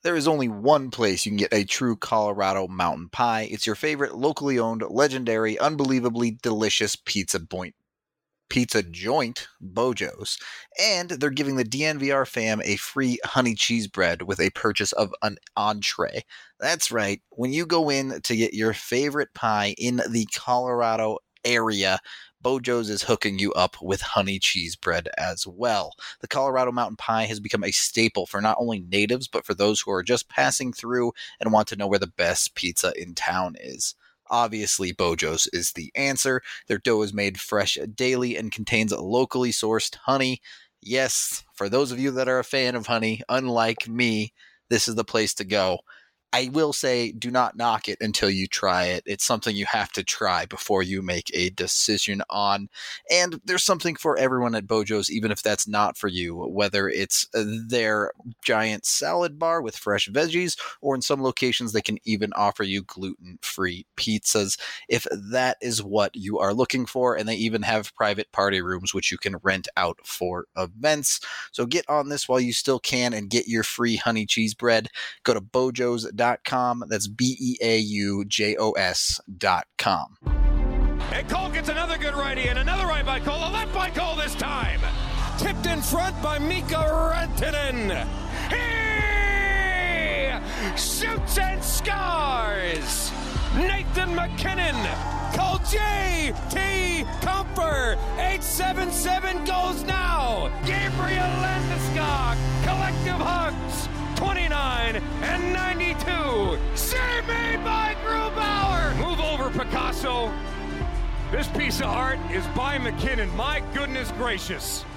There is only one place you can get a true Colorado mountain pie. It's your favorite locally owned, legendary, unbelievably delicious pizza joint, Bojo's. And they're giving the DNVR fam a free honey cheese bread with a purchase of an entree. That's right. When you go in to get your favorite pie in the Colorado area, Bojo's is hooking you up with honey cheese bread as well. The Colorado Mountain Pie has become a staple for not only natives, but for those who are just passing through and want to know where the best pizza in town is. Obviously, Bojo's is the answer. Their dough is made fresh daily and contains locally sourced honey. Yes, for those of you that are a fan of honey, unlike me, this is the place to go. I will say, do not knock it until you try it. It's something you have to try before you make a decision on. And there's something for everyone at Bojo's, even if that's not for you, whether it's their giant salad bar with fresh veggies, or in some locations they can even offer you gluten-free pizzas if that is what you are looking for. And they even have private party rooms which you can rent out for events. So get on this while you still can and get your free honey cheese bread. Go to Bojos.com. That's BEAUJOS.com. And Cole gets another good righty and another right by Cole. A left by Cole this time. Tipped in front by Mika Rantanen. He shoots and scores. Nathan MacKinnon. Cole J.T. Comfer. 877 goes now. Gabriel Landeskog. Collective hugs. 29 and 92. Save made by Grubauer. Move over, Picasso. This piece of art is by McKinnon. My goodness gracious.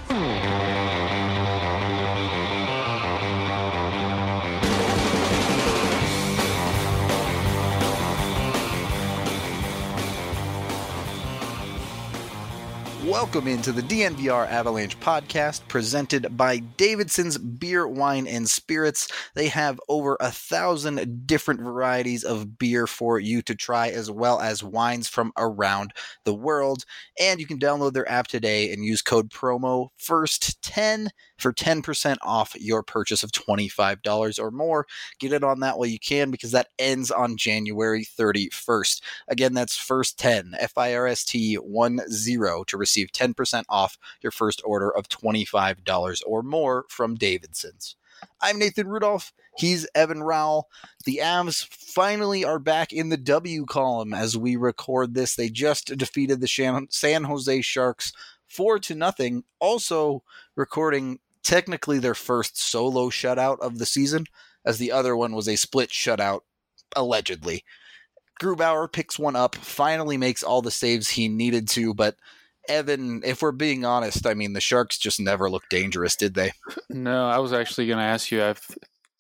Welcome into the DNVR Avalanche podcast presented by Davidson's Beer, Wine, and Spirits. They have over 1,000 different varieties of beer for you to try, as well as wines from around the world. And you can download their app today and use code promo FIRST10 for 10% off your purchase of $25 or more. Get it on that while you can, because that ends on January 31st. Again, that's FIRST10, FIRST10, to receive 10% off your first order of $25 or more from Davidson's. I'm Nathan Rudolph. He's Evan Rowell. The Avs finally are back in the W column as we record this. They just defeated the San Jose Sharks 4-0. Also recording technically their first solo shutout of the season, as the other one was a split shutout, allegedly. Grubauer picks one up, finally makes all the saves he needed to, but Evan, if we're being honest, I mean, the Sharks just never looked dangerous, did they? No, I was actually going to ask you, as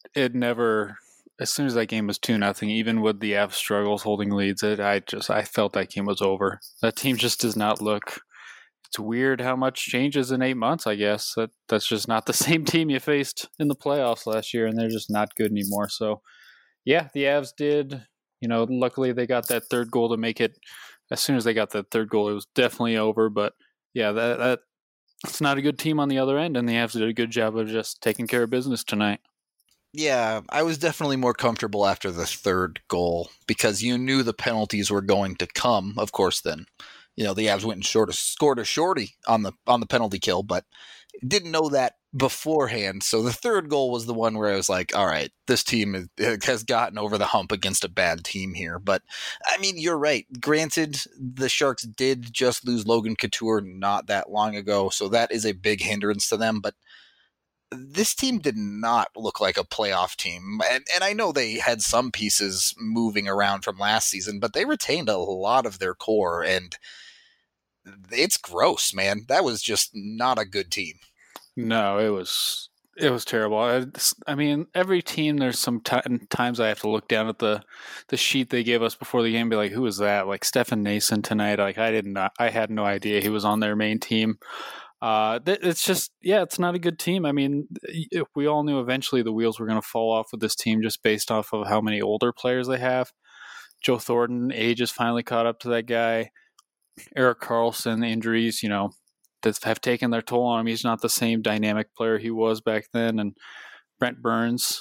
soon as that game was 2-0, even with the Avs struggles holding leads, I felt that game was over. That team just does not look. It's weird how much changes in 8 months, I guess. That's just not the same team you faced in the playoffs last year, and they're just not good anymore. So, yeah, the Avs did. Luckily they got that third goal to make it. As soon as they got that third goal, it was definitely over. But, yeah, that's not a good team on the other end, and the Avs did a good job of just taking care of business tonight. Yeah, I was definitely more comfortable after the third goal because you knew the penalties were going to come, of course, then. The Avs went and scored a shorty on the penalty kill, but didn't know that beforehand. So the third goal was the one where I was like, all right, this team has gotten over the hump against a bad team here. But, I mean, you're right. Granted, the Sharks did just lose Logan Couture not that long ago, so that is a big hindrance to them. But this team did not look like a playoff team. And I know they had some pieces moving around from last season, but they retained a lot of their core, and it's gross, man. That was just not a good team. No, it was terrible. I mean, every team, there's some times I have to look down at the sheet they gave us before the game and be like, who is that? Like Stefan Nason tonight. Like I had no idea he was on their main team. It's just, it's not a good team. I mean, we all knew eventually the wheels were going to fall off with this team just based off of how many older players they have. Joe Thornton, age has finally caught up to that guy. Erik Karlsson, injuries, that have taken their toll on him. He's not the same dynamic player he was back then. And Brent Burns,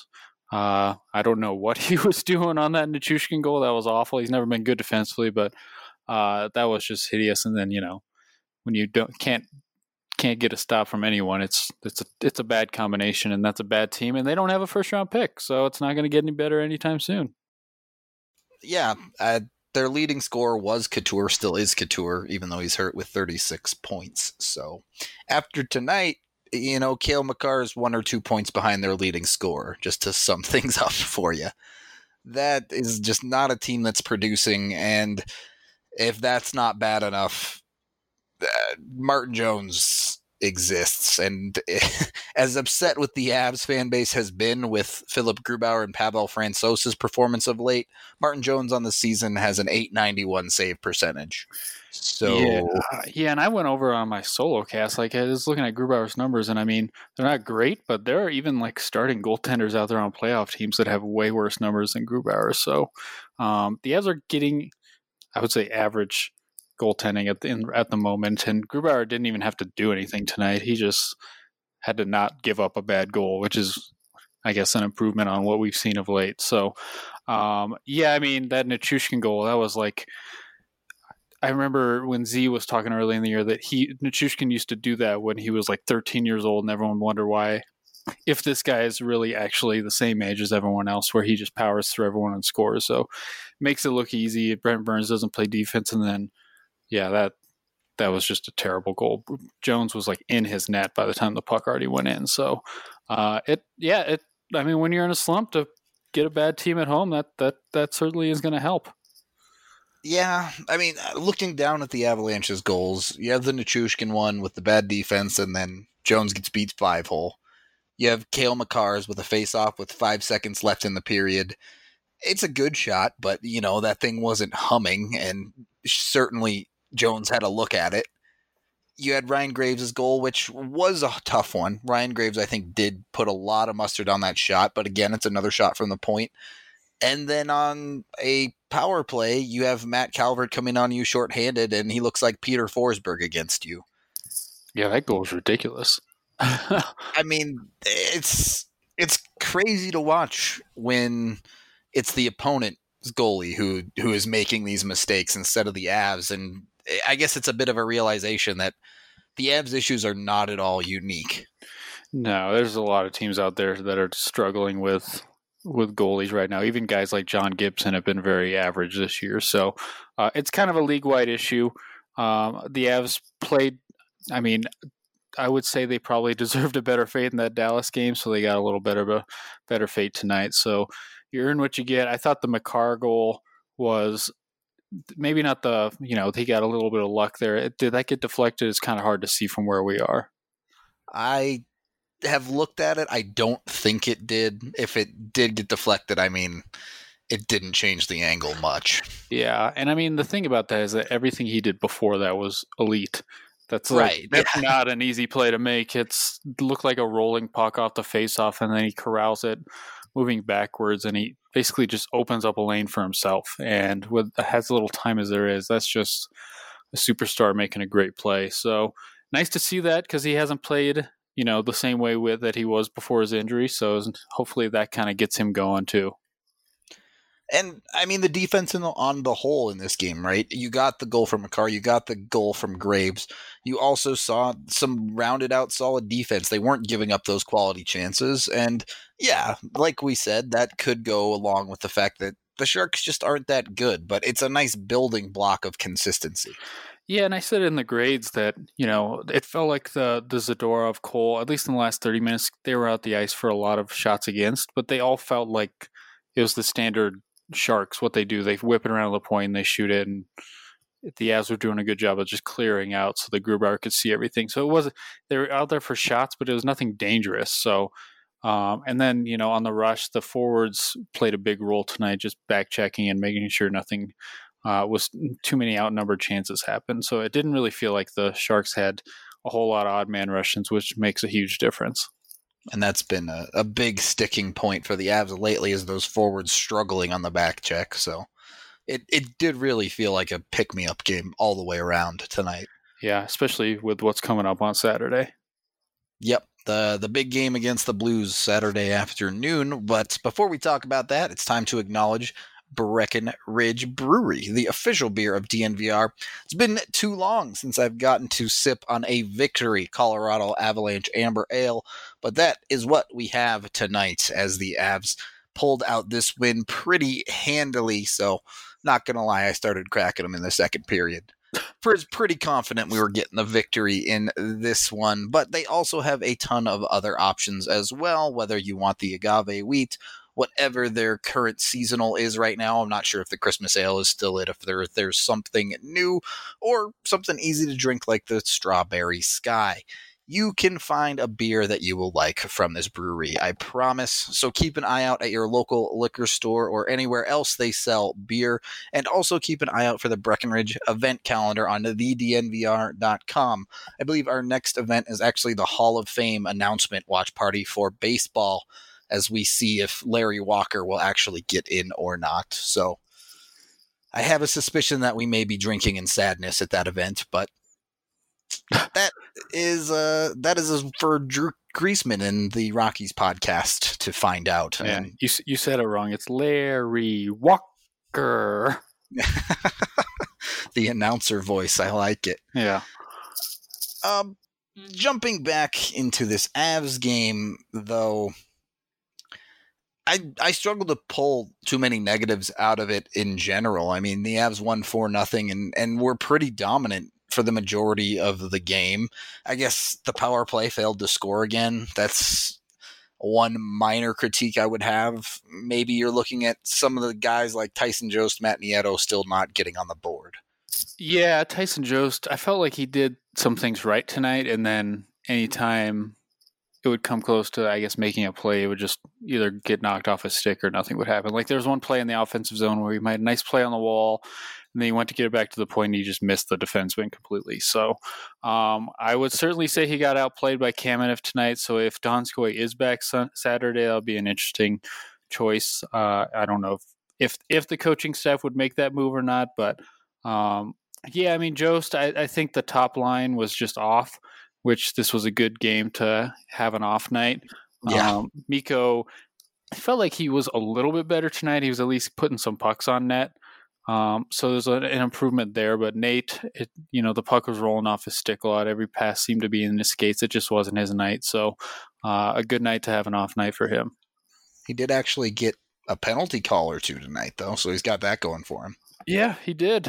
I don't know what he was doing on that Nichushkin goal. That was awful. He's never been good defensively, but that was just hideous. And then, when you can't get a stop from anyone, it's a bad combination, and that's a bad team, and they don't have a first round pick, so it's not going to get any better anytime soon. Yeah, their leading scorer was Couture, still is Couture, even though he's hurt, with 36 points. So after tonight, Cale Makar is 1 or 2 points behind their leading scorer, just to sum things up for you. That is just not a team that's producing, and if that's not bad enough, Martin Jones exists. And as upset with the Avs fan base has been with Philip Grubauer and Pavel Francouz's performance of late, Martin Jones on the season has an .891 save percentage. So yeah, and I went over on my solo cast. Like, I was looking at Grubauer's numbers, and I mean, they're not great, but there are even like starting goaltenders out there on playoff teams that have way worse numbers than Grubauer. So the Avs are getting, I would say, average goaltending at the moment, and Grubauer didn't even have to do anything tonight. He just had to not give up a bad goal, which is, I guess, an improvement on what we've seen of late. So, yeah, I mean, that Nichushkin goal, that was like, I remember when Z was talking early in the year that Nichushkin used to do that when he was like 13 years old, and everyone wondered why, if this guy is really actually the same age as everyone else, where he just powers through everyone and scores. So makes it look easy. Brent Burns doesn't play defense, and then yeah, that was just a terrible goal. Jones was like in his net by the time the puck already went in. So I mean, when you're in a slump, to get a bad team at home, that certainly is going to help. Yeah, I mean, looking down at the Avalanche's goals, you have the Nichushkin one with the bad defense, and then Jones gets beat 5-hole. You have Cale Makar's with a face-off with 5 seconds left in the period. It's a good shot, but, that thing wasn't humming, and certainly Jones had a look at it. You had Ryan Graves' goal, which was a tough one. Ryan Graves, I think, did put a lot of mustard on that shot, but again, it's another shot from the point. And then on a power play, you have Matt Calvert coming on you shorthanded, and he looks like Peter Forsberg against you. Yeah, that goal is ridiculous. I mean, it's crazy to watch when it's the opponent's goalie who is making these mistakes instead of the Avs. And I guess it's a bit of a realization that the Avs issues are not at all unique. No, there's a lot of teams out there that are struggling with goalies right now. Even guys like John Gibson have been very average this year. So it's kind of a league-wide issue. The Avs played, I mean, I would say they probably deserved a better fate in that Dallas game, so they got a little bit of a better fate tonight. So you earn what you get. I thought the Makar goal was maybe not he got a little bit of luck there. Did that get deflected? It's kind of hard to see from where we are. I have looked at it. I don't think it did. If it did get deflected, I mean, it didn't change the angle much. Yeah, and I mean, the thing about that is that everything he did before that was elite. That's right. That's not an easy play to make. It's looked like a rolling puck off the faceoff, and then he corrals it, moving backwards, and he basically just opens up a lane for himself. And with as little time as there is, that's just a superstar making a great play. So nice to see that, because he hasn't played, the same way that he was before his injury. So hopefully that kind of gets him going too. And, I mean, the defense on the whole in this game, right? You got the goal from Makar. You got the goal from Graves. You also saw some rounded out solid defense. They weren't giving up those quality chances. And, yeah, like we said, that could go along with the fact that the Sharks just aren't that good. But it's a nice building block of consistency. Yeah, and I said in the grades that, it felt like the Zadorov, Cole, at least in the last 30 minutes, they were out the ice for a lot of shots against. But they all felt like it was the standard Sharks. What they do, they whip it around the point and they shoot it, and the Avs were doing a good job of just clearing out so the Grubauer could see everything. So they were out there for shots, but it was nothing dangerous. So and then on the rush, the forwards played a big role tonight, just back checking and making sure nothing was too many outnumbered chances happened. So it didn't really feel like the Sharks had a whole lot of odd man Russians, which makes a huge difference. And that's been a big sticking point for the Avs lately, is those forwards struggling on the back check. So it did really feel like a pick-me-up game all the way around tonight. Yeah, especially with what's coming up on Saturday. Yep, the big game against the Blues Saturday afternoon. But before we talk about that, it's time to acknowledge Breckenridge Brewery, the official beer of DNVR. It's been too long since I've gotten to sip on a Victory Colorado Avalanche Amber Ale, but that is what we have tonight as the Avs pulled out this win pretty handily. So, not going to lie, I started cracking them in the second period. Pretty confident we were getting the victory in this one, but they also have a ton of other options as well, whether you want the agave wheat, whatever their current seasonal is right now. I'm not sure if the Christmas ale is still it, if there's something new or something easy to drink like the Strawberry Sky. You can find a beer that you will like from this brewery, I promise. So keep an eye out at your local liquor store or anywhere else they sell beer. And also keep an eye out for the Breckenridge event calendar on thednvr.com. I believe our next event is actually the Hall of Fame announcement watch party for baseball, as we see if Larry Walker will actually get in or not. So I have a suspicion that we may be drinking in sadness at that event, but that is for Drew Griesman and the Rockies podcast to find out. Yeah, you said it wrong. It's Larry Walker. The announcer voice. I like it. Yeah. Jumping back into this Avs game, though, I struggle to pull too many negatives out of it in general. I mean, the Avs won 4-0 and were pretty dominant for the majority of the game. I guess the power play failed to score again. That's one minor critique I would have. Maybe you're looking at some of the guys like Tyson Jost, Matt Nieto still not getting on the board. Yeah, Tyson Jost, I felt like he did some things right tonight, and then anytime it would come close to, I guess, making a play, it would just either get knocked off a stick or nothing would happen. Like there was one play in the offensive zone where he made a nice play on the wall, and then he went to get it back to the point and he just missed the defenseman completely. So I would certainly say he got outplayed by Kamenev tonight. So if Donskoy is back Saturday, that'll be an interesting choice. I don't know if the coaching staff would make that move or not, but yeah, I mean, Jost, I think the top line was just off, which this was a good game to have an off night. Yeah. Mikko, I felt like he was a little bit better tonight. He was at least putting some pucks on net. So there's an improvement there, but Nate, the puck was rolling off his stick a lot. Every pass seemed to be in his skates. It just wasn't his night. So a good night to have an off night for him. He did actually get a penalty call or two tonight, though, so he's got that going for him. Yeah, he did.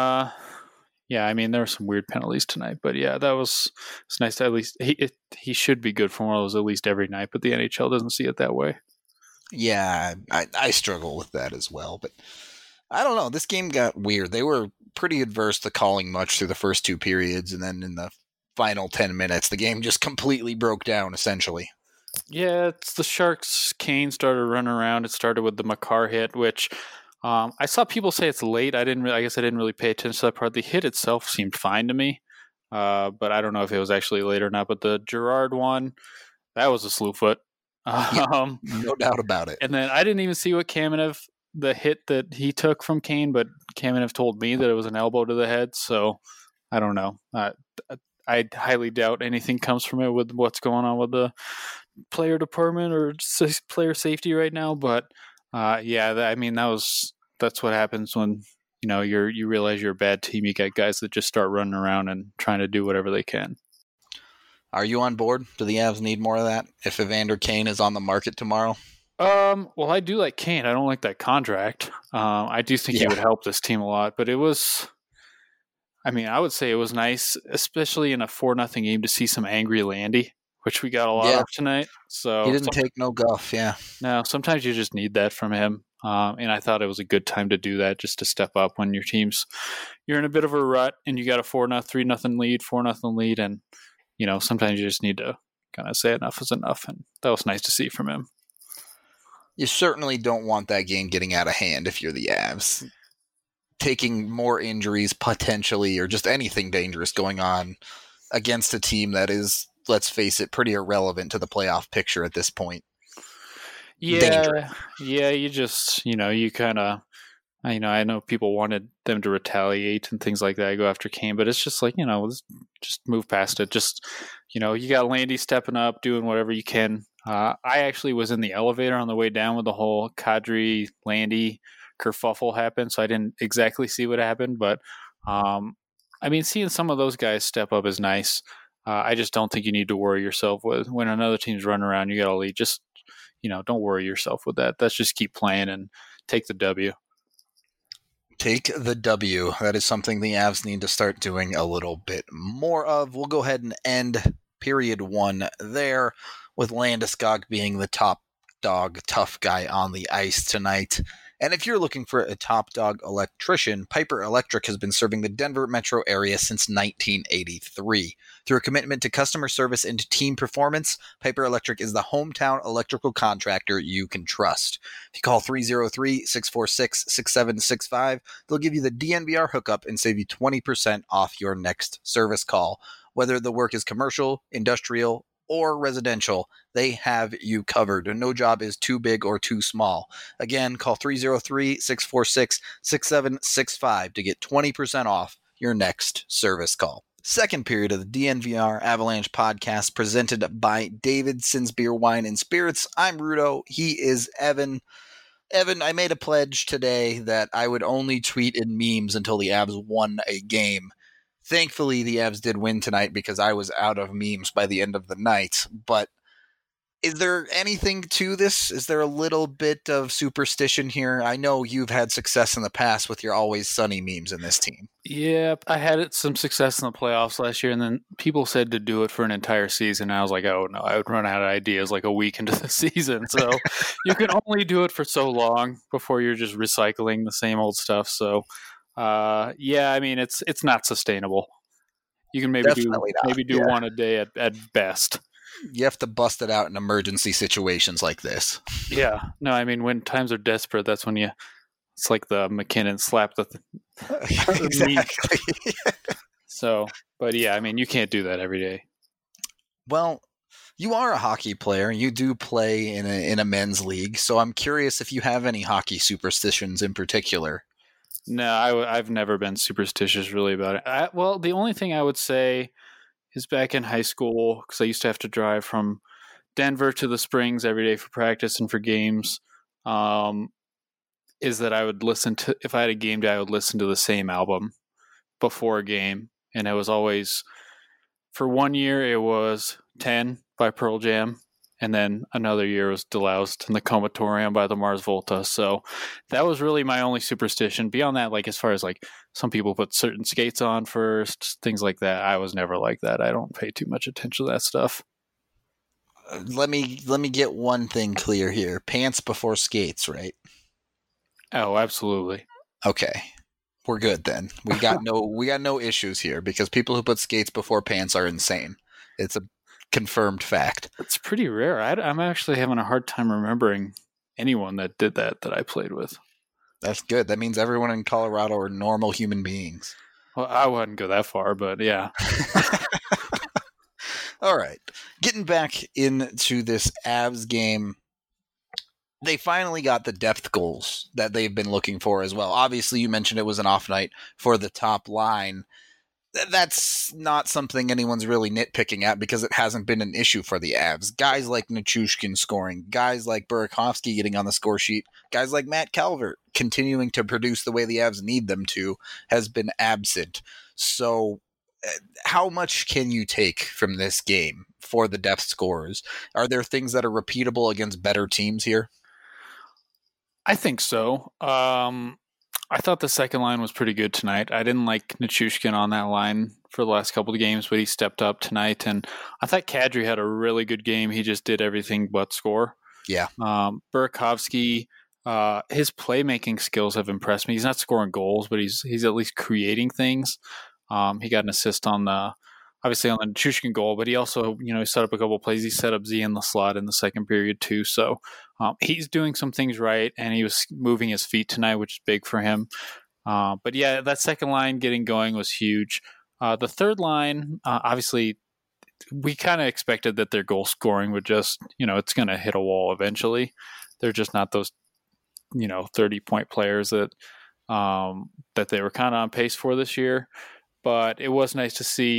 Yeah, I mean, there were some weird penalties tonight, but yeah, it's nice to at least he should be good for one of those at least every night, but the NHL doesn't see it that way. Yeah, I struggle with that as well, but I don't know. This game got weird. They were pretty adverse to calling much through the first two periods, and then in the final 10 minutes, the game just completely broke down, essentially. Yeah, it's the Sharks. Kane started running around. It started with the Makar hit, which I saw people say it's late. I guess I didn't really pay attention to that part. The hit itself seemed fine to me, but I don't know if it was actually late or not. But the Gerard one, that was a slew foot. No doubt about it. And then I didn't even see what Kamenev, the hit that he took from Kane, but Kamenev told me that it was an elbow to the head. So I don't know. I highly doubt anything comes from it with what's going on with the player department or player safety right now. But yeah, that's what happens when you realize you're a bad team. You got guys that just start running around and trying to do whatever they can. Are you on board? Do the Avs need more of that if Evander Kane is on the market tomorrow? Well, I do like Kane. I don't like that contract. I do think he would help this team a lot, but I would say it was nice, especially in a 4-0 game, to see some angry Landy, which we got a lot of tonight. So he didn't take no guff. Yeah. No, sometimes you just need that from him. And I thought it was a good time to do that, just to step up when you're in a bit of a rut and you got a 3-0 lead, 4-0 lead. And, sometimes you just need to kind of say enough is enough. And that was nice to see from him. You certainly don't want that game getting out of hand if you're the Avs. Taking more injuries potentially, or just anything dangerous going on against a team that is, let's face it, pretty irrelevant to the playoff picture at this point. Yeah, you just, you kind of, I know people wanted them to retaliate and things like that, go after Kane, but it's just like, just move past it. Just, You got Landy stepping up, doing whatever you can. I actually was in the elevator on the way down when the whole Kadri, Landy kerfuffle happened, so I didn't exactly see what happened. But, seeing some of those guys step up is nice. I just don't think you need to worry yourself with when another team's running around, you got a lead. Just, don't worry yourself with that. Let's just keep playing and take the W. Take the W. That is something the Avs need to start doing a little bit more of. We'll go ahead and end period 1 there, with Landeskog being the top dog, tough guy on the ice tonight. And if you're looking for a top dog electrician, Piper Electric has been serving the Denver metro area since 1983. Through a commitment to customer service and team performance, Piper Electric is the hometown electrical contractor you can trust. If you call 303-646-6765, they'll give you the DNVR hookup and save you 20% off your next service call. Whether the work is commercial, industrial, or residential, they have you covered. No job is too big or too small. Again, call 303-646-6765 to get 20% off your next service call. Second period of the DNVR Avalanche podcast presented by Davidson's Beer, Wine, and Spirits. I'm Rudo. He is Evan. Evan, I made a pledge today that I would only tweet in memes until the Avs won a game. Thankfully, the Avs did win tonight because I was out of memes by the end of the night. But is there anything to this? Is there a little bit of superstition here? I know you've had success in the past with your Always Sunny memes in this team. Yeah, I had some success in the playoffs last year, and then people said to do it for an entire season. And I was like, oh, no, I would run out of ideas like a week into the season. So you can only do it for so long before you're just recycling the same old stuff. So it's not sustainable. You can maybe do one a day at best. You have to bust it out in emergency situations like this. Yeah. No, when times are desperate, that's when it's like the McKinnon slap the exactly. So, but yeah, you can't do that every day. Well, you are a hockey player. You do play in a men's league. So I'm curious if you have any hockey superstitions in particular. No, I've never been superstitious really about it. The only thing I would say is back in high school, because I used to have to drive from Denver to the Springs every day for practice and for games, is that I would listen to, if I had a game day, I would listen to the same album before a game. And it was always, for 1 year, it was 10 by Pearl Jam. And then another year was Deloused and the Comatorium by the Mars Volta. So that was really my only superstition. Beyond that, as far as some people put certain skates on first, things like that, I was never like that. I don't pay too much attention to that stuff. Let me get one thing clear here. Pants before skates, right? Oh, absolutely. Okay. We're good then. We got no issues here, because people who put skates before pants are insane. It's a confirmed fact. It's pretty rare. I'm actually having a hard time remembering anyone that did that I played with. That's good. That means everyone in Colorado are normal human beings. Well, I wouldn't go that far, but yeah. All right. Getting back into this Avs game, they finally got the depth goals that they've been looking for as well. Obviously, you mentioned it was an off night for the top line. That's not something anyone's really nitpicking at, because it hasn't been an issue for the Avs. Guys like Nichushkin scoring, guys like Burakovsky getting on the score sheet, guys like Matt Calvert continuing to produce the way the Avs need them to has been absent. So how much can you take from this game for the depth scorers? Are there things that are repeatable against better teams here? I think so. I thought the second line was pretty good tonight. I didn't like Nichushkin on that line for the last couple of games, but he stepped up tonight. And I thought Kadri had a really good game. He just did everything but score. Yeah. Burakovsky, his playmaking skills have impressed me. He's not scoring goals, but he's at least creating things. He got an assist on the Nichushkin goal, but he also, he set up a couple of plays. He set up Z in the slot in the second period too. So he's doing some things right, and he was moving his feet tonight, which is big for him. But yeah, that second line getting going was huge. The third line, obviously, we kind of expected that their goal scoring would just, it's going to hit a wall eventually. They're just not those, 30-point players that they were kind of on pace for this year. But it was nice to see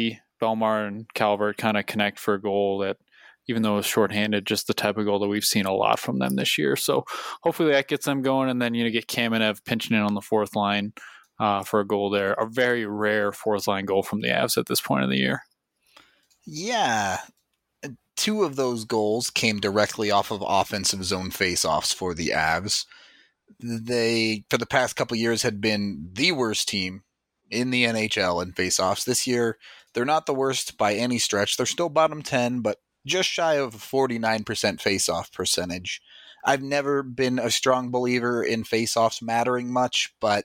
Belmar and Calvert kind of connect for a goal that, even though it was shorthanded, just the type of goal that we've seen a lot from them this year. So hopefully that gets them going, and then get Kamenev pinching in on the fourth line for a goal there. A very rare fourth line goal from the Avs at this point of the year. Yeah. 2 of those goals came directly off of offensive zone faceoffs for the Avs. They, for the past couple years, had been the worst team in the NHL in faceoffs. This year, they're not the worst by any stretch. They're still bottom 10, but just shy of a 49% faceoff percentage. I've never been a strong believer in faceoffs mattering much, but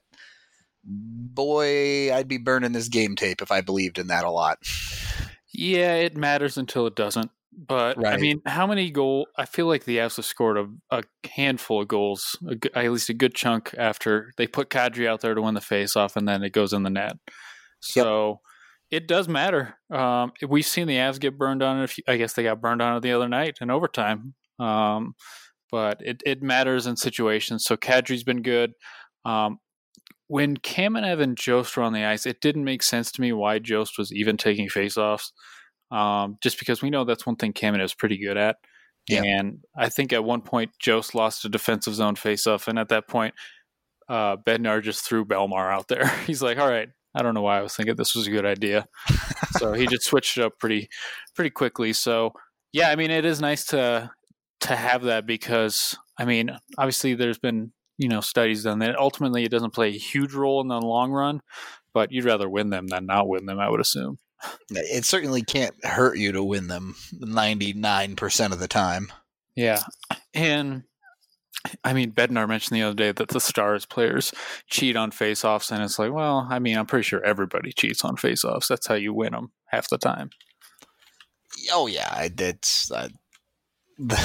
boy, I'd be burning this game tape if I believed in that a lot. Yeah, it matters until it doesn't. But, right. I mean, how many goals? I feel like the Avs have scored a handful of goals, at least a good chunk after they put Kadri out there to win the faceoff, and then it goes in the net. So it does matter. We've seen the Avs get burned on it. I guess they got burned on it the other night in overtime. But it matters in situations. So Kadri's been good. When Kamenev and Jost were on the ice, it didn't make sense to me why Jost was even taking faceoffs. Just because we know that's one thing Kamenev is pretty good at. Yeah. And I think at one point Jost lost a defensive zone faceoff, and at that point Bednar just threw Belmar out there. He's like, all right, I don't know why I was thinking this was a good idea. So he just switched it up pretty quickly. So yeah, I mean, it is nice to have that, because I mean, obviously there's been studies done that ultimately it doesn't play a huge role in the long run, but you'd rather win them than not win them, I would assume. It certainly can't hurt you to win them 99% of the time. Yeah. And I mean, Bednar mentioned the other day that the Stars players cheat on faceoffs, and it's like, well, I mean, I'm pretty sure everybody cheats on faceoffs. That's how you win them half the time. Oh, yeah. It's the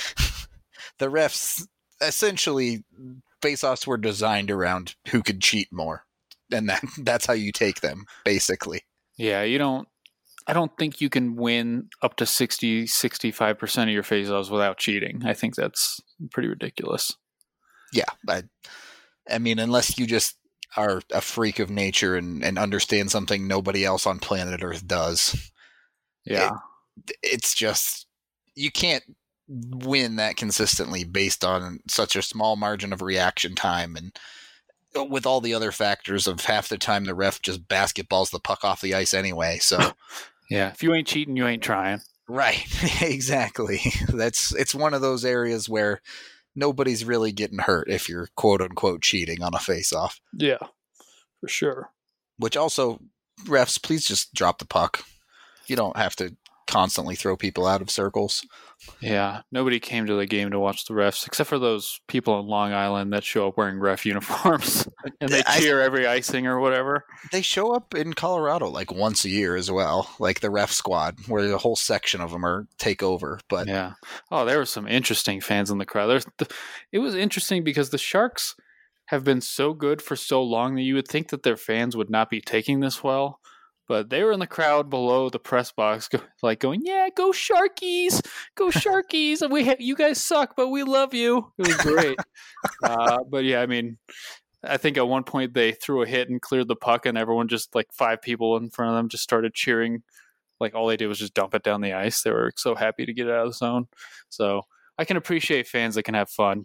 refs, essentially, faceoffs were designed around who could cheat more, and that's how you take them, basically. Yeah, I don't think you can win up to 60-65% of your faceoffs without cheating. I think that's pretty ridiculous. Yeah, I mean, unless you just are a freak of nature and understand something nobody else on planet Earth does. Yeah. It's just, you can't win that consistently based on such a small margin of reaction time, and with all the other factors of half the time the ref just basketballs the puck off the ice anyway. So yeah, if you ain't cheating, you ain't trying. Right. Exactly. It's one of those areas where nobody's really getting hurt if you're quote unquote cheating on a face-off. Yeah, for sure. Which also, refs, please just drop the puck. You don't have to constantly throw people out of circles. Yeah, nobody came to the game to watch the refs except for those people on Long Island that show up wearing ref uniforms and they cheer every icing or whatever. They show up in Colorado like once a year as well, like the ref squad, where a whole section of them take over. But yeah, there were some interesting fans in the crowd. It was interesting because the Sharks have been so good for so long that you would think that their fans would not be taking this well. But they were in the crowd below the press box, going, "Yeah, go Sharkies, go Sharkies! You guys suck, but we love you." It was great. But yeah, I mean, I think at one point they threw a hit and cleared the puck, and everyone, just like 5 people in front of them, just started cheering. Like all they did was just dump it down the ice. They were so happy to get it out of the zone. So I can appreciate fans that can have fun.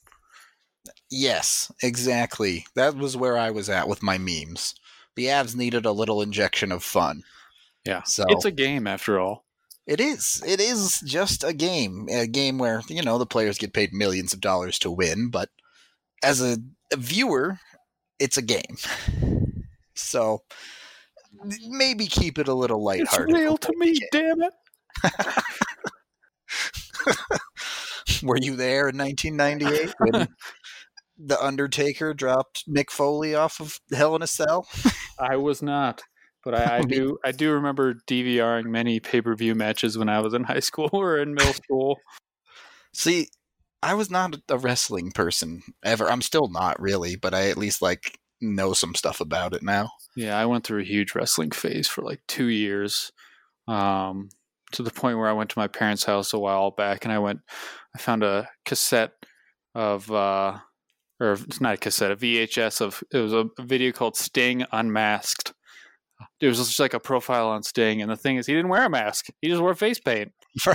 Yes, exactly. That was where I was at with my memes. The Avs needed a little injection of fun. Yeah, so it's a game after all. It is. It is just a game where, the players get paid millions of dollars to win, but as a viewer, it's a game. So maybe keep it a little lighthearted. It's real to me, damn it. Were you there in 1998 when The Undertaker dropped Mick Foley off of Hell in a Cell? I was not, but I do remember DVRing many pay-per-view matches when I was in high school or in middle school. See, I was not a wrestling person ever. I'm still not really, but I at least know some stuff about it now. Yeah, I went through a huge wrestling phase for 2 years, to the point where I went to my parents' house a while back, and I found a cassette of. Or it's not a cassette, a VHS it was a video called Sting Unmasked. It was just like a profile on Sting, and the thing is, he didn't wear a mask. He just wore face paint.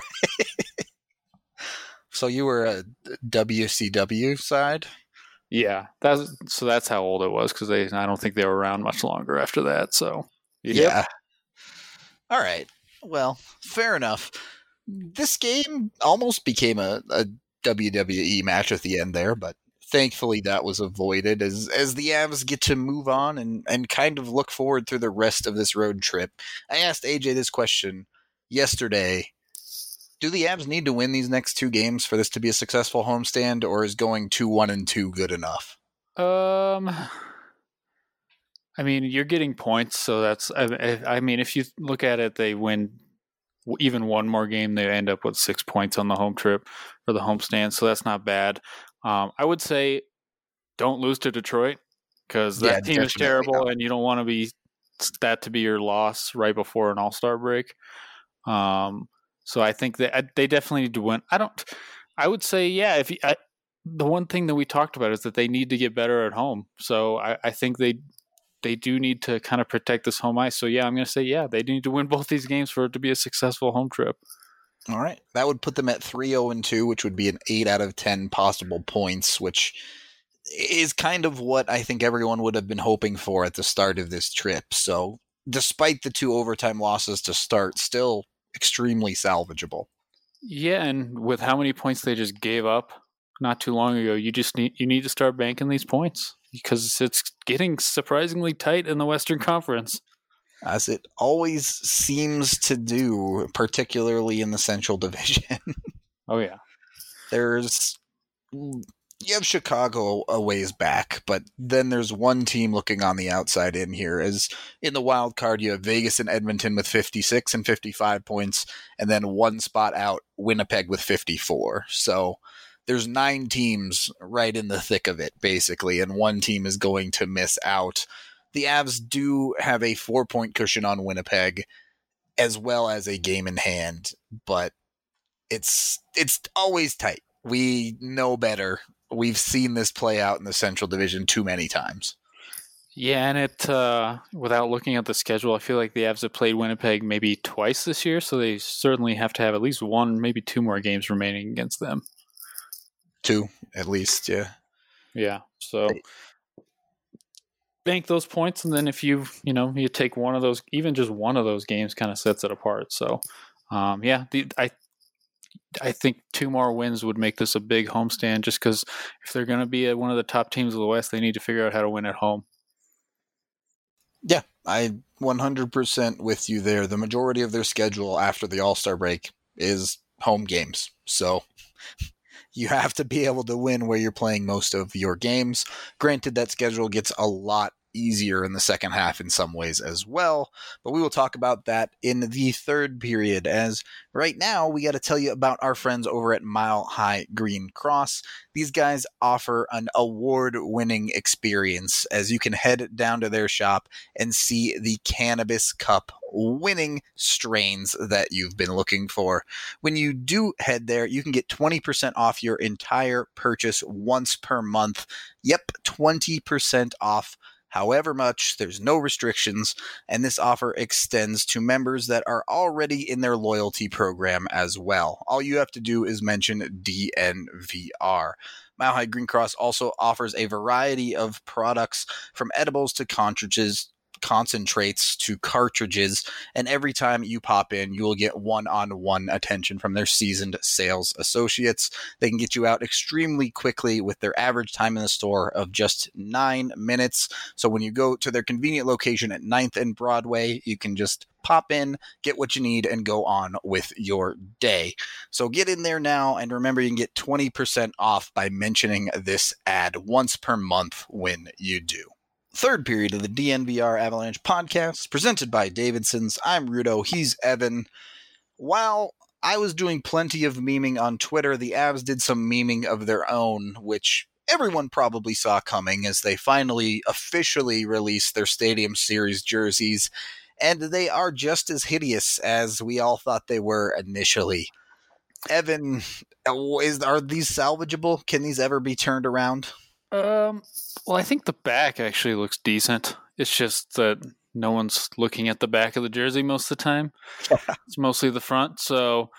So you were a WCW side? Yeah, that's how old it was, because I don't think they were around much longer after that. So yeah. All right. Well, fair enough. This game almost became a WWE match at the end there, but thankfully that was avoided as the Avs get to move on and kind of look forward through the rest of this road trip. I asked AJ this question yesterday. Do the Avs need to win these next two games for this to be a successful homestand, or is going 2-1-2 good enough? I mean, you're getting points, so that's. I mean, if you look at it, they win even one more game, they end up with 6 points on the home trip or the homestand, so that's not bad. I would say don't lose to Detroit, because that team is terrible, and you don't want to be that to be your loss right before an All-Star break. So I think that they definitely need to win. I would say, yeah, the one thing that we talked about is that they need to get better at home. So I think they do need to kind of protect this home ice. So yeah, I'm going to say, yeah, they need to win both these games for it to be a successful home trip. All right. That would put them at 3-0-2, which would be an 8 out of 10 possible points, which is kind of what I think everyone would have been hoping for at the start of this trip. So despite the 2 overtime losses to start, still extremely salvageable. Yeah, and with how many points they just gave up not too long ago, you need to start banking these points, because it's getting surprisingly tight in the Western Conference. As it always seems to do, particularly in the Central Division. Oh, yeah. You have Chicago a ways back, but then there's one team looking on the outside in here. As in the wild card, you have Vegas and Edmonton with 56 and 55 points, and then one spot out, Winnipeg with 54. So there's 9 teams right in the thick of it, basically, and one team is going to miss out. The Avs do have a 4-point cushion on Winnipeg, as well as a game in hand, but it's always tight. We know better. We've seen this play out in the Central Division too many times. Yeah, and without looking at the schedule, I feel like the Avs have played Winnipeg maybe twice this year, so they certainly have to have at least 1, maybe 2 more games remaining against them. 2, at least, yeah. Yeah, so bank those points, and then if you take one of those, even just one of those games kind of sets it apart. So, yeah, I think 2 more wins would make this a big homestand, just because if they're going to be one of the top teams of the West, they need to figure out how to win at home. Yeah, I 100% with you there. The majority of their schedule after the All-Star break is home games. So you have to be able to win where you're playing most of your games. Granted, that schedule gets a lot easier in the second half in some ways as well, but we will talk about that in the third period, as right now we got to tell you about our friends over at Mile High Green Cross. These guys offer an award-winning experience, as you can head down to their shop and see the Cannabis Cup winning strains that you've been looking for. When you do head there, you can get 20% off your entire purchase once per month. Yep, 20% off. However much, there's no restrictions, and this offer extends to members that are already in their loyalty program as well. All you have to do is mention DNVR. Mile High Green Cross also offers a variety of products, from edibles to concentrates to cartridges, and every time you pop in, you will get one-on-one attention from their seasoned sales associates. They can get you out extremely quickly with their average time in the store of just 9 minutes. So when you go to their convenient location at 9th and Broadway, you can just pop in, get what you need, and go on with your day. So get in there now, and remember, you can get 20% off by mentioning this ad once per month when you do. Third period of the DNVR Avalanche podcast, presented by Davidson's. I'm Rudo, he's Evan. While I was doing plenty of memeing on Twitter, the Avs did some memeing of their own, which everyone probably saw coming, as they finally officially released their Stadium Series jerseys, and they are just as hideous as we all thought they were initially. Evan, are these salvageable? Can these ever be turned around? Well, I think the back actually looks decent. It's just that no one's looking at the back of the jersey most of the time. It's mostly the front. So,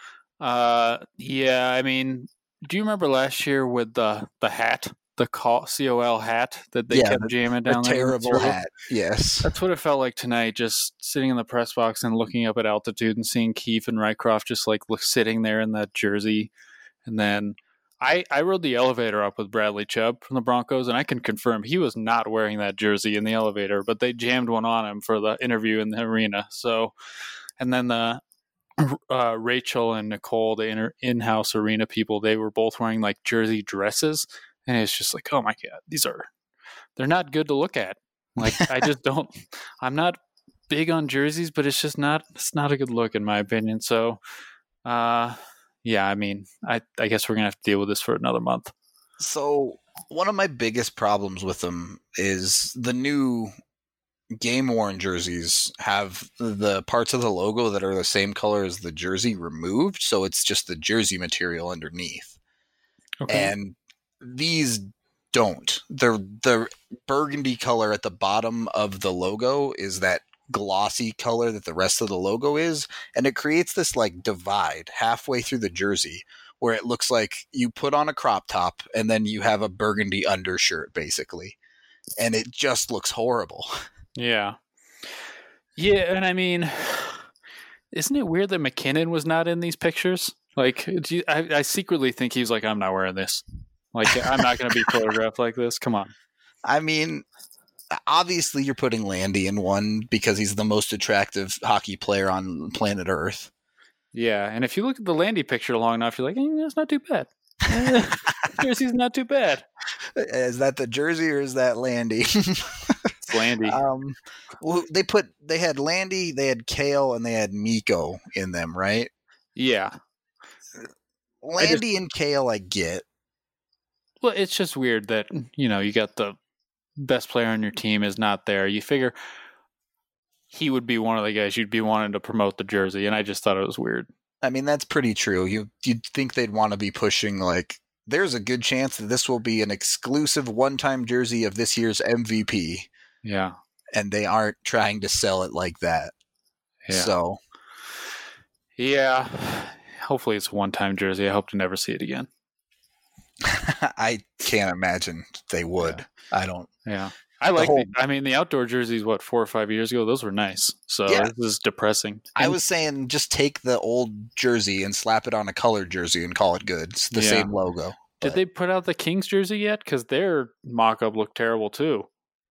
yeah, I mean, do you remember last year with the hat, the COL hat that they kept jamming down there? Terrible hat, yes. That's what it felt like tonight, just sitting in the press box and looking up at altitude and seeing Keefe and Rycroft just like sitting there in that jersey. And then I rode the elevator up with Bradley Chubb from the Broncos, and I can confirm he was not wearing that jersey in the elevator, but they jammed one on him for the interview in the arena. So, and then the Rachel and Nicole, the in-house arena people, they were both wearing like jersey dresses, and it's just like, oh my God, they're not good to look at. Like, I just don't, I'm not big on jerseys, but it's not a good look in my opinion. So, yeah, I mean, I guess we're going to have to deal with this for another month. So one of my biggest problems with them is the new game-worn jerseys have the parts of the logo that are the same color as the jersey removed, so it's just the jersey material underneath. Okay. And these don't. The burgundy color at the bottom of the logo is that glossy color that the rest of the logo is, and it creates this like divide halfway through the jersey where it looks like you put on a crop top and then you have a burgundy undershirt basically, and it just looks horrible. Yeah, and I mean, isn't it weird that McKinnon was not in these pictures? Like, I secretly think he's like, I'm not wearing this. Like, I'm not going to be photographed like this. Come on. I mean, obviously you're putting Landy in one because he's the most attractive hockey player on planet Earth. Yeah, and if you look at the Landy picture long enough, you're like, that's not too bad. Jersey's not too bad. Is that the jersey or is that Landy? It's Landy. Well, they had Landy, they had Kale, and they had Mikko in them, right? Yeah. Landy and Kale, I get. Well, it's just weird that, you got the best player on your team is not there. You figure he would be one of the guys you'd be wanting to promote the jersey, and I just thought it was weird. I mean, that's pretty true. You'd think they'd want to be pushing, like, there's a good chance that this will be an exclusive one-time jersey of this year's MVP. Yeah. And they aren't trying to sell it like that. Yeah. So. Yeah. Hopefully it's a one-time jersey. I hope to never see it again. I can't imagine they would. Yeah. I don't. Yeah. I like the outdoor jerseys, 4 or 5 years ago, those were nice. So yeah. This is depressing. I was saying just take the old jersey and slap it on a colored jersey and call it good. It's the same logo. Did they put out the Kings jersey yet? Because their mock-up looked terrible too.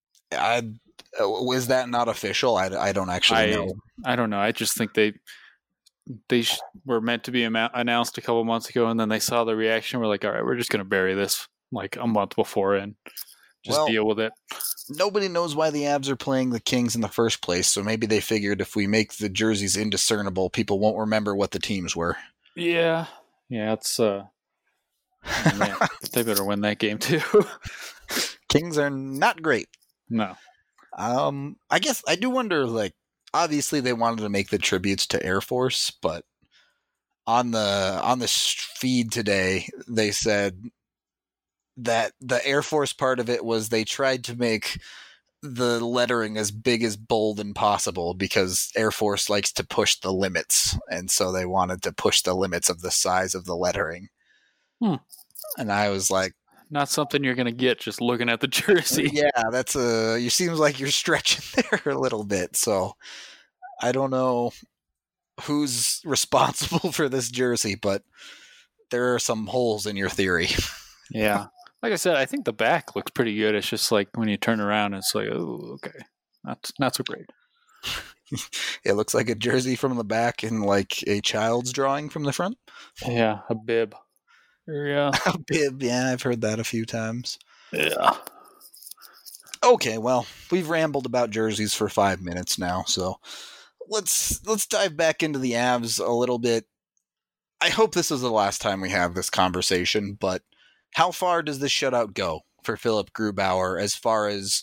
Was that not official? I don't actually know. I don't know. I just think they were meant to be announced a couple months ago, and then they saw the reaction. We're like, all right, we're just going to bury this like a month before and just deal with it. Nobody knows why the Avs are playing the Kings in the first place, so maybe they figured if we make the jerseys indiscernible, people won't remember what the teams were. Yeah, it's man, they better win that game too. Kings are not great. No. I guess I do wonder, like, obviously they wanted to make the tributes to Air Force, but on the feed today, they said that the Air Force part of it was they tried to make the lettering as big as bold and possible because Air Force likes to push the limits, and so they wanted to push the limits of the size of the lettering. And I was like, not something you're going to get just looking at the jersey. Yeah, that's it seems like you're stretching there a little bit. So I don't know who's responsible for this jersey, but there are some holes in your theory. Yeah. Like I said, I think the back looks pretty good. It's just like when you turn around, it's like, oh, okay. Not so great. It looks like a jersey from the back and like a child's drawing from the front. Yeah, a bib. Yeah. A bib, yeah, I've heard that a few times. Yeah. Okay, well, we've rambled about jerseys for 5 minutes now, so let's dive back into the Avs a little bit. I hope this is the last time we have this conversation, but how far does this shutout go for Philip Grubauer as far as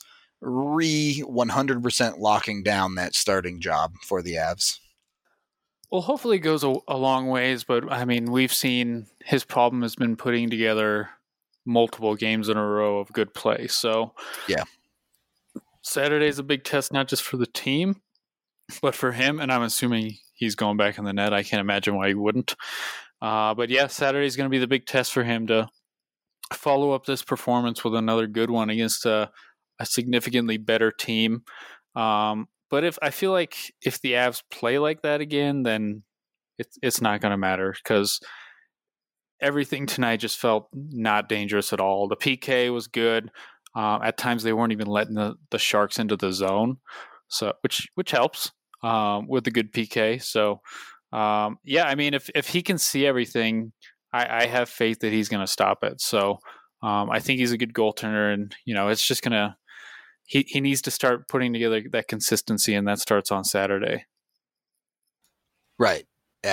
100% locking down that starting job for the Avs? Well, hopefully it goes a long ways, but I mean, we've seen his problem has been putting together multiple games in a row of good play. So, yeah, Saturday's a big test, not just for the team, but for him. And I'm assuming he's going back in the net. I can't imagine why he wouldn't. But yeah, Saturday's going to be the big test for him to follow up this performance with another good one against a significantly better team. But I feel like if the Avs play like that again, then it's not going to matter, because everything tonight just felt not dangerous at all. The PK was good. At times they weren't even letting the Sharks into the zone, so which helps with the good PK. So yeah, I mean, if he can see everything, I have faith that he's going to stop it. So I think he's a good goaltender, and it's just gonna. He needs to start putting together that consistency, and that starts on Saturday. Right.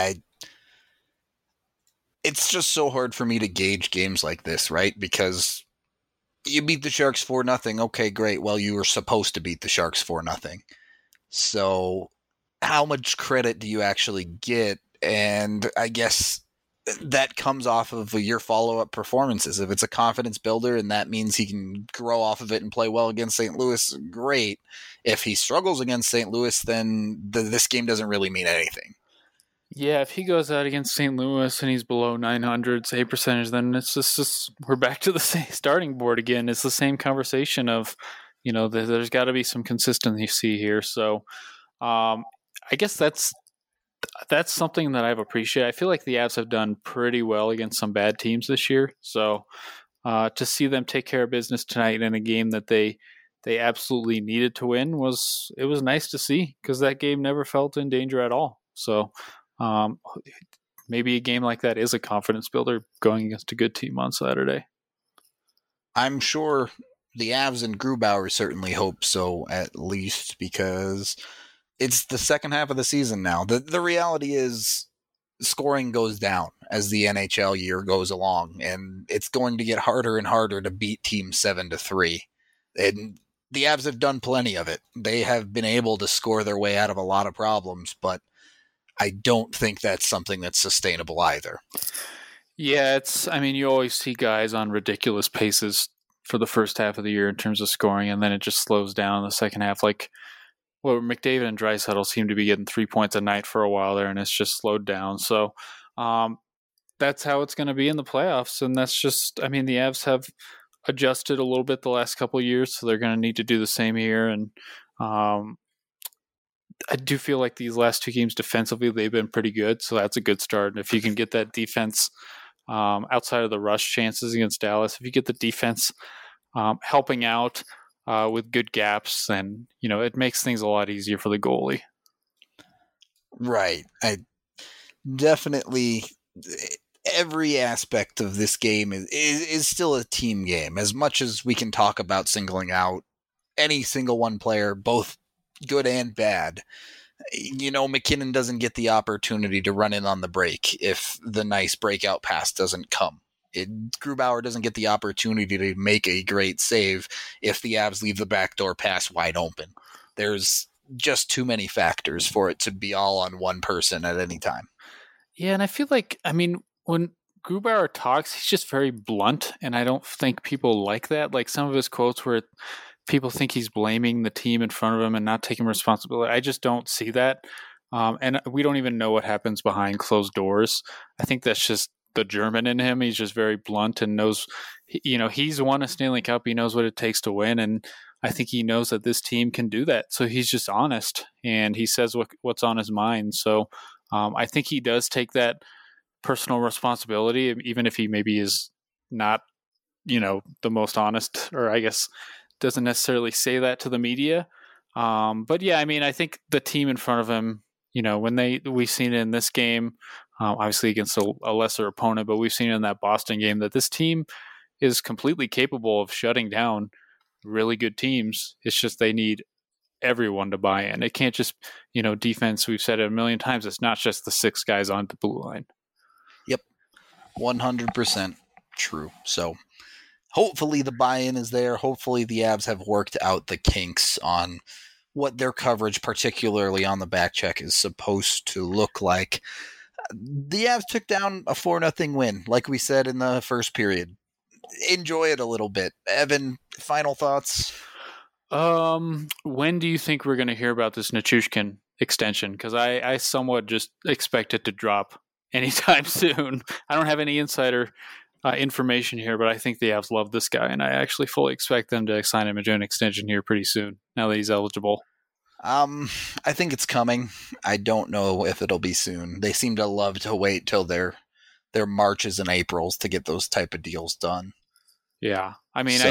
It's just so hard for me to gauge games like this, right? Because you beat the Sharks 4-0. Okay, great. Well, you were supposed to beat the Sharks 4-0. So how much credit do you actually get? And I guess that comes off of your follow-up performances. If it's a confidence builder and that means he can grow off of it and play well against St. Louis, great. If he struggles against St. Louis, then this game doesn't really mean anything. Yeah, if he goes out against St. Louis and he's below 900 save percentage, then it's just we're back to the same starting board again. It's the same conversation of, there's got to be some consistency here. So I guess that's something that I've appreciated. I feel like the Avs have done pretty well against some bad teams this year. So to see them take care of business tonight in a game that they absolutely needed to win was nice to see, because that game never felt in danger at all. So maybe a game like that is a confidence builder going against a good team on Saturday. I'm sure the Avs and Grubauer certainly hope so, at least, because it's the second half of the season now. The reality is scoring goes down as the NHL year goes along, and it's going to get harder and harder to beat teams 7-3. And the Avs have done plenty of it. They have been able to score their way out of a lot of problems, but I don't think that's something that's sustainable either. Yeah, you always see guys on ridiculous paces for the first half of the year in terms of scoring, and then it just slows down in the second half. Like, McDavid and Draisaitl seem to be getting 3 points a night for a while there, and it's just slowed down. So that's how it's going to be in the playoffs, and that's just, the Avs have adjusted a little bit the last couple of years, so they're going to need to do the same here. And I do feel like these last two games defensively, they've been pretty good. So that's a good start. And if you can get that defense outside of the rush chances against Dallas, if you get the defense helping out with good gaps, then, it makes things a lot easier for the goalie. Right. I definitely, every aspect of this game is still a team game. As much as we can talk about singling out any single one player, both good and bad, McKinnon doesn't get the opportunity to run in on the break if the nice breakout pass doesn't come. Grubauer doesn't get the opportunity to make a great save if the Avs leave the backdoor pass wide open. There's just too many factors for it to be all on one person at any time. Yeah, and I feel like, when Grubauer talks, he's just very blunt, and I don't think people like that. Like, some of his quotes where people think he's blaming the team in front of him and not taking responsibility. I just don't see that. And we don't even know what happens behind closed doors. I think that's just the German in him. He's just very blunt and knows, he's won a Stanley Cup. He knows what it takes to win. And I think he knows that this team can do that. So he's just honest, and he says what's on his mind. So I think he does take that personal responsibility, even if he maybe is not, the most honest, or I guess doesn't necessarily say that to the media. But yeah, I think the team in front of him, when we've seen it in this game, obviously against a lesser opponent, but we've seen it in that Boston game that this team is completely capable of shutting down really good teams. It's just they need everyone to buy in. It can't just, defense, we've said it a million times, it's not just the six guys on the blue line. Yep. 100% true. So hopefully the buy-in is there. Hopefully the Avs have worked out the kinks on what their coverage, particularly on the back check, is supposed to look like. The Avs took down a 4-0 win, like we said in the first period. Enjoy it a little bit. Evan, final thoughts? When do you think we're going to hear about this Nichushkin extension? Because I somewhat just expect it to drop anytime soon. I don't have any insider information here, but I think the Avs love this guy, and I actually fully expect them to sign him to an extension here pretty soon, now that he's eligible. I think it's coming. I don't know if it'll be soon. They seem to love to wait till their Marches and Aprils to get those type of deals done. Yeah. I mean,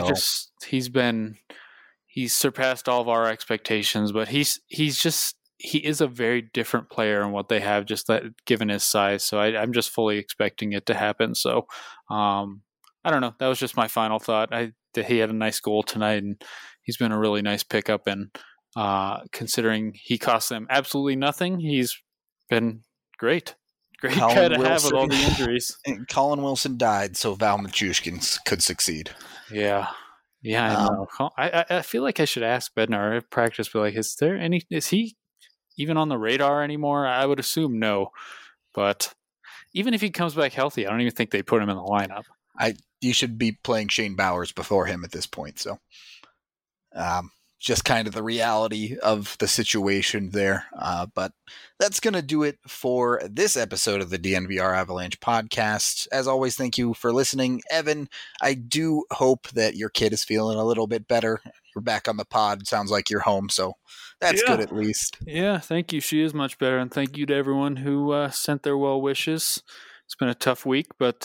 he's surpassed all of our expectations, but he is a very different player in what they have, just that given his size. So I'm just fully expecting it to happen. So I don't know. That was just my final thought. He had a nice goal tonight, and he's been a really nice pickup. And considering he cost them absolutely nothing, he's been great. Great guy to have with all the injuries. Colin Wilson died, so Val Nichushkin could succeed. Yeah. Yeah, I know. I feel like I should ask Bednar at practice, but like, is he even on the radar anymore? I would assume no. But even if he comes back healthy, I don't even think they put him in the lineup. You should be playing Shane Bowers before him at this point. So, just kind of the reality of the situation there. But that's going to do it for this episode of the DNVR Avalanche podcast. As always, thank you for listening. Evan, I do hope that your kid is feeling a little bit better. You're back on the pod. Sounds like you're home, so that's good at least. Yeah, thank you. She is much better, and thank you to everyone who sent their well wishes. It's been a tough week, but,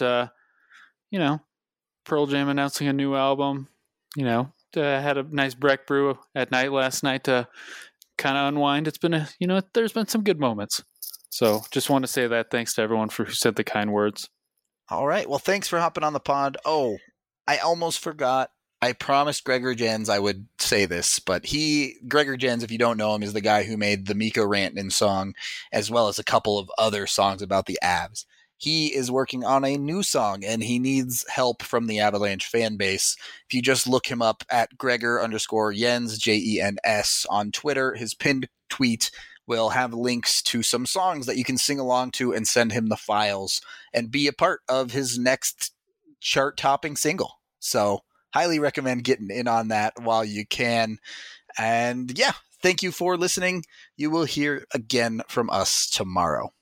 Pearl Jam announcing a new album, had a nice Breck brew at night last night to kind of unwind. It's been there's been some good moments. So just want to say that thanks to everyone who said the kind words. All right. Well, thanks for hopping on the pod. Oh, I almost forgot. I promised Gregor Jens I would say this, but Gregor Jens, if you don't know him, is the guy who made the Mikko Rantanen song, as well as a couple of other songs about the Avs. He is working on a new song, and he needs help from the Avalanche fan base. If you just look him up at Gregor_Jens, Jens, on Twitter, his pinned tweet will have links to some songs that you can sing along to and send him the files and be a part of his next chart-topping single. So, highly recommend getting in on that while you can. And yeah, thank you for listening. You will hear again from us tomorrow.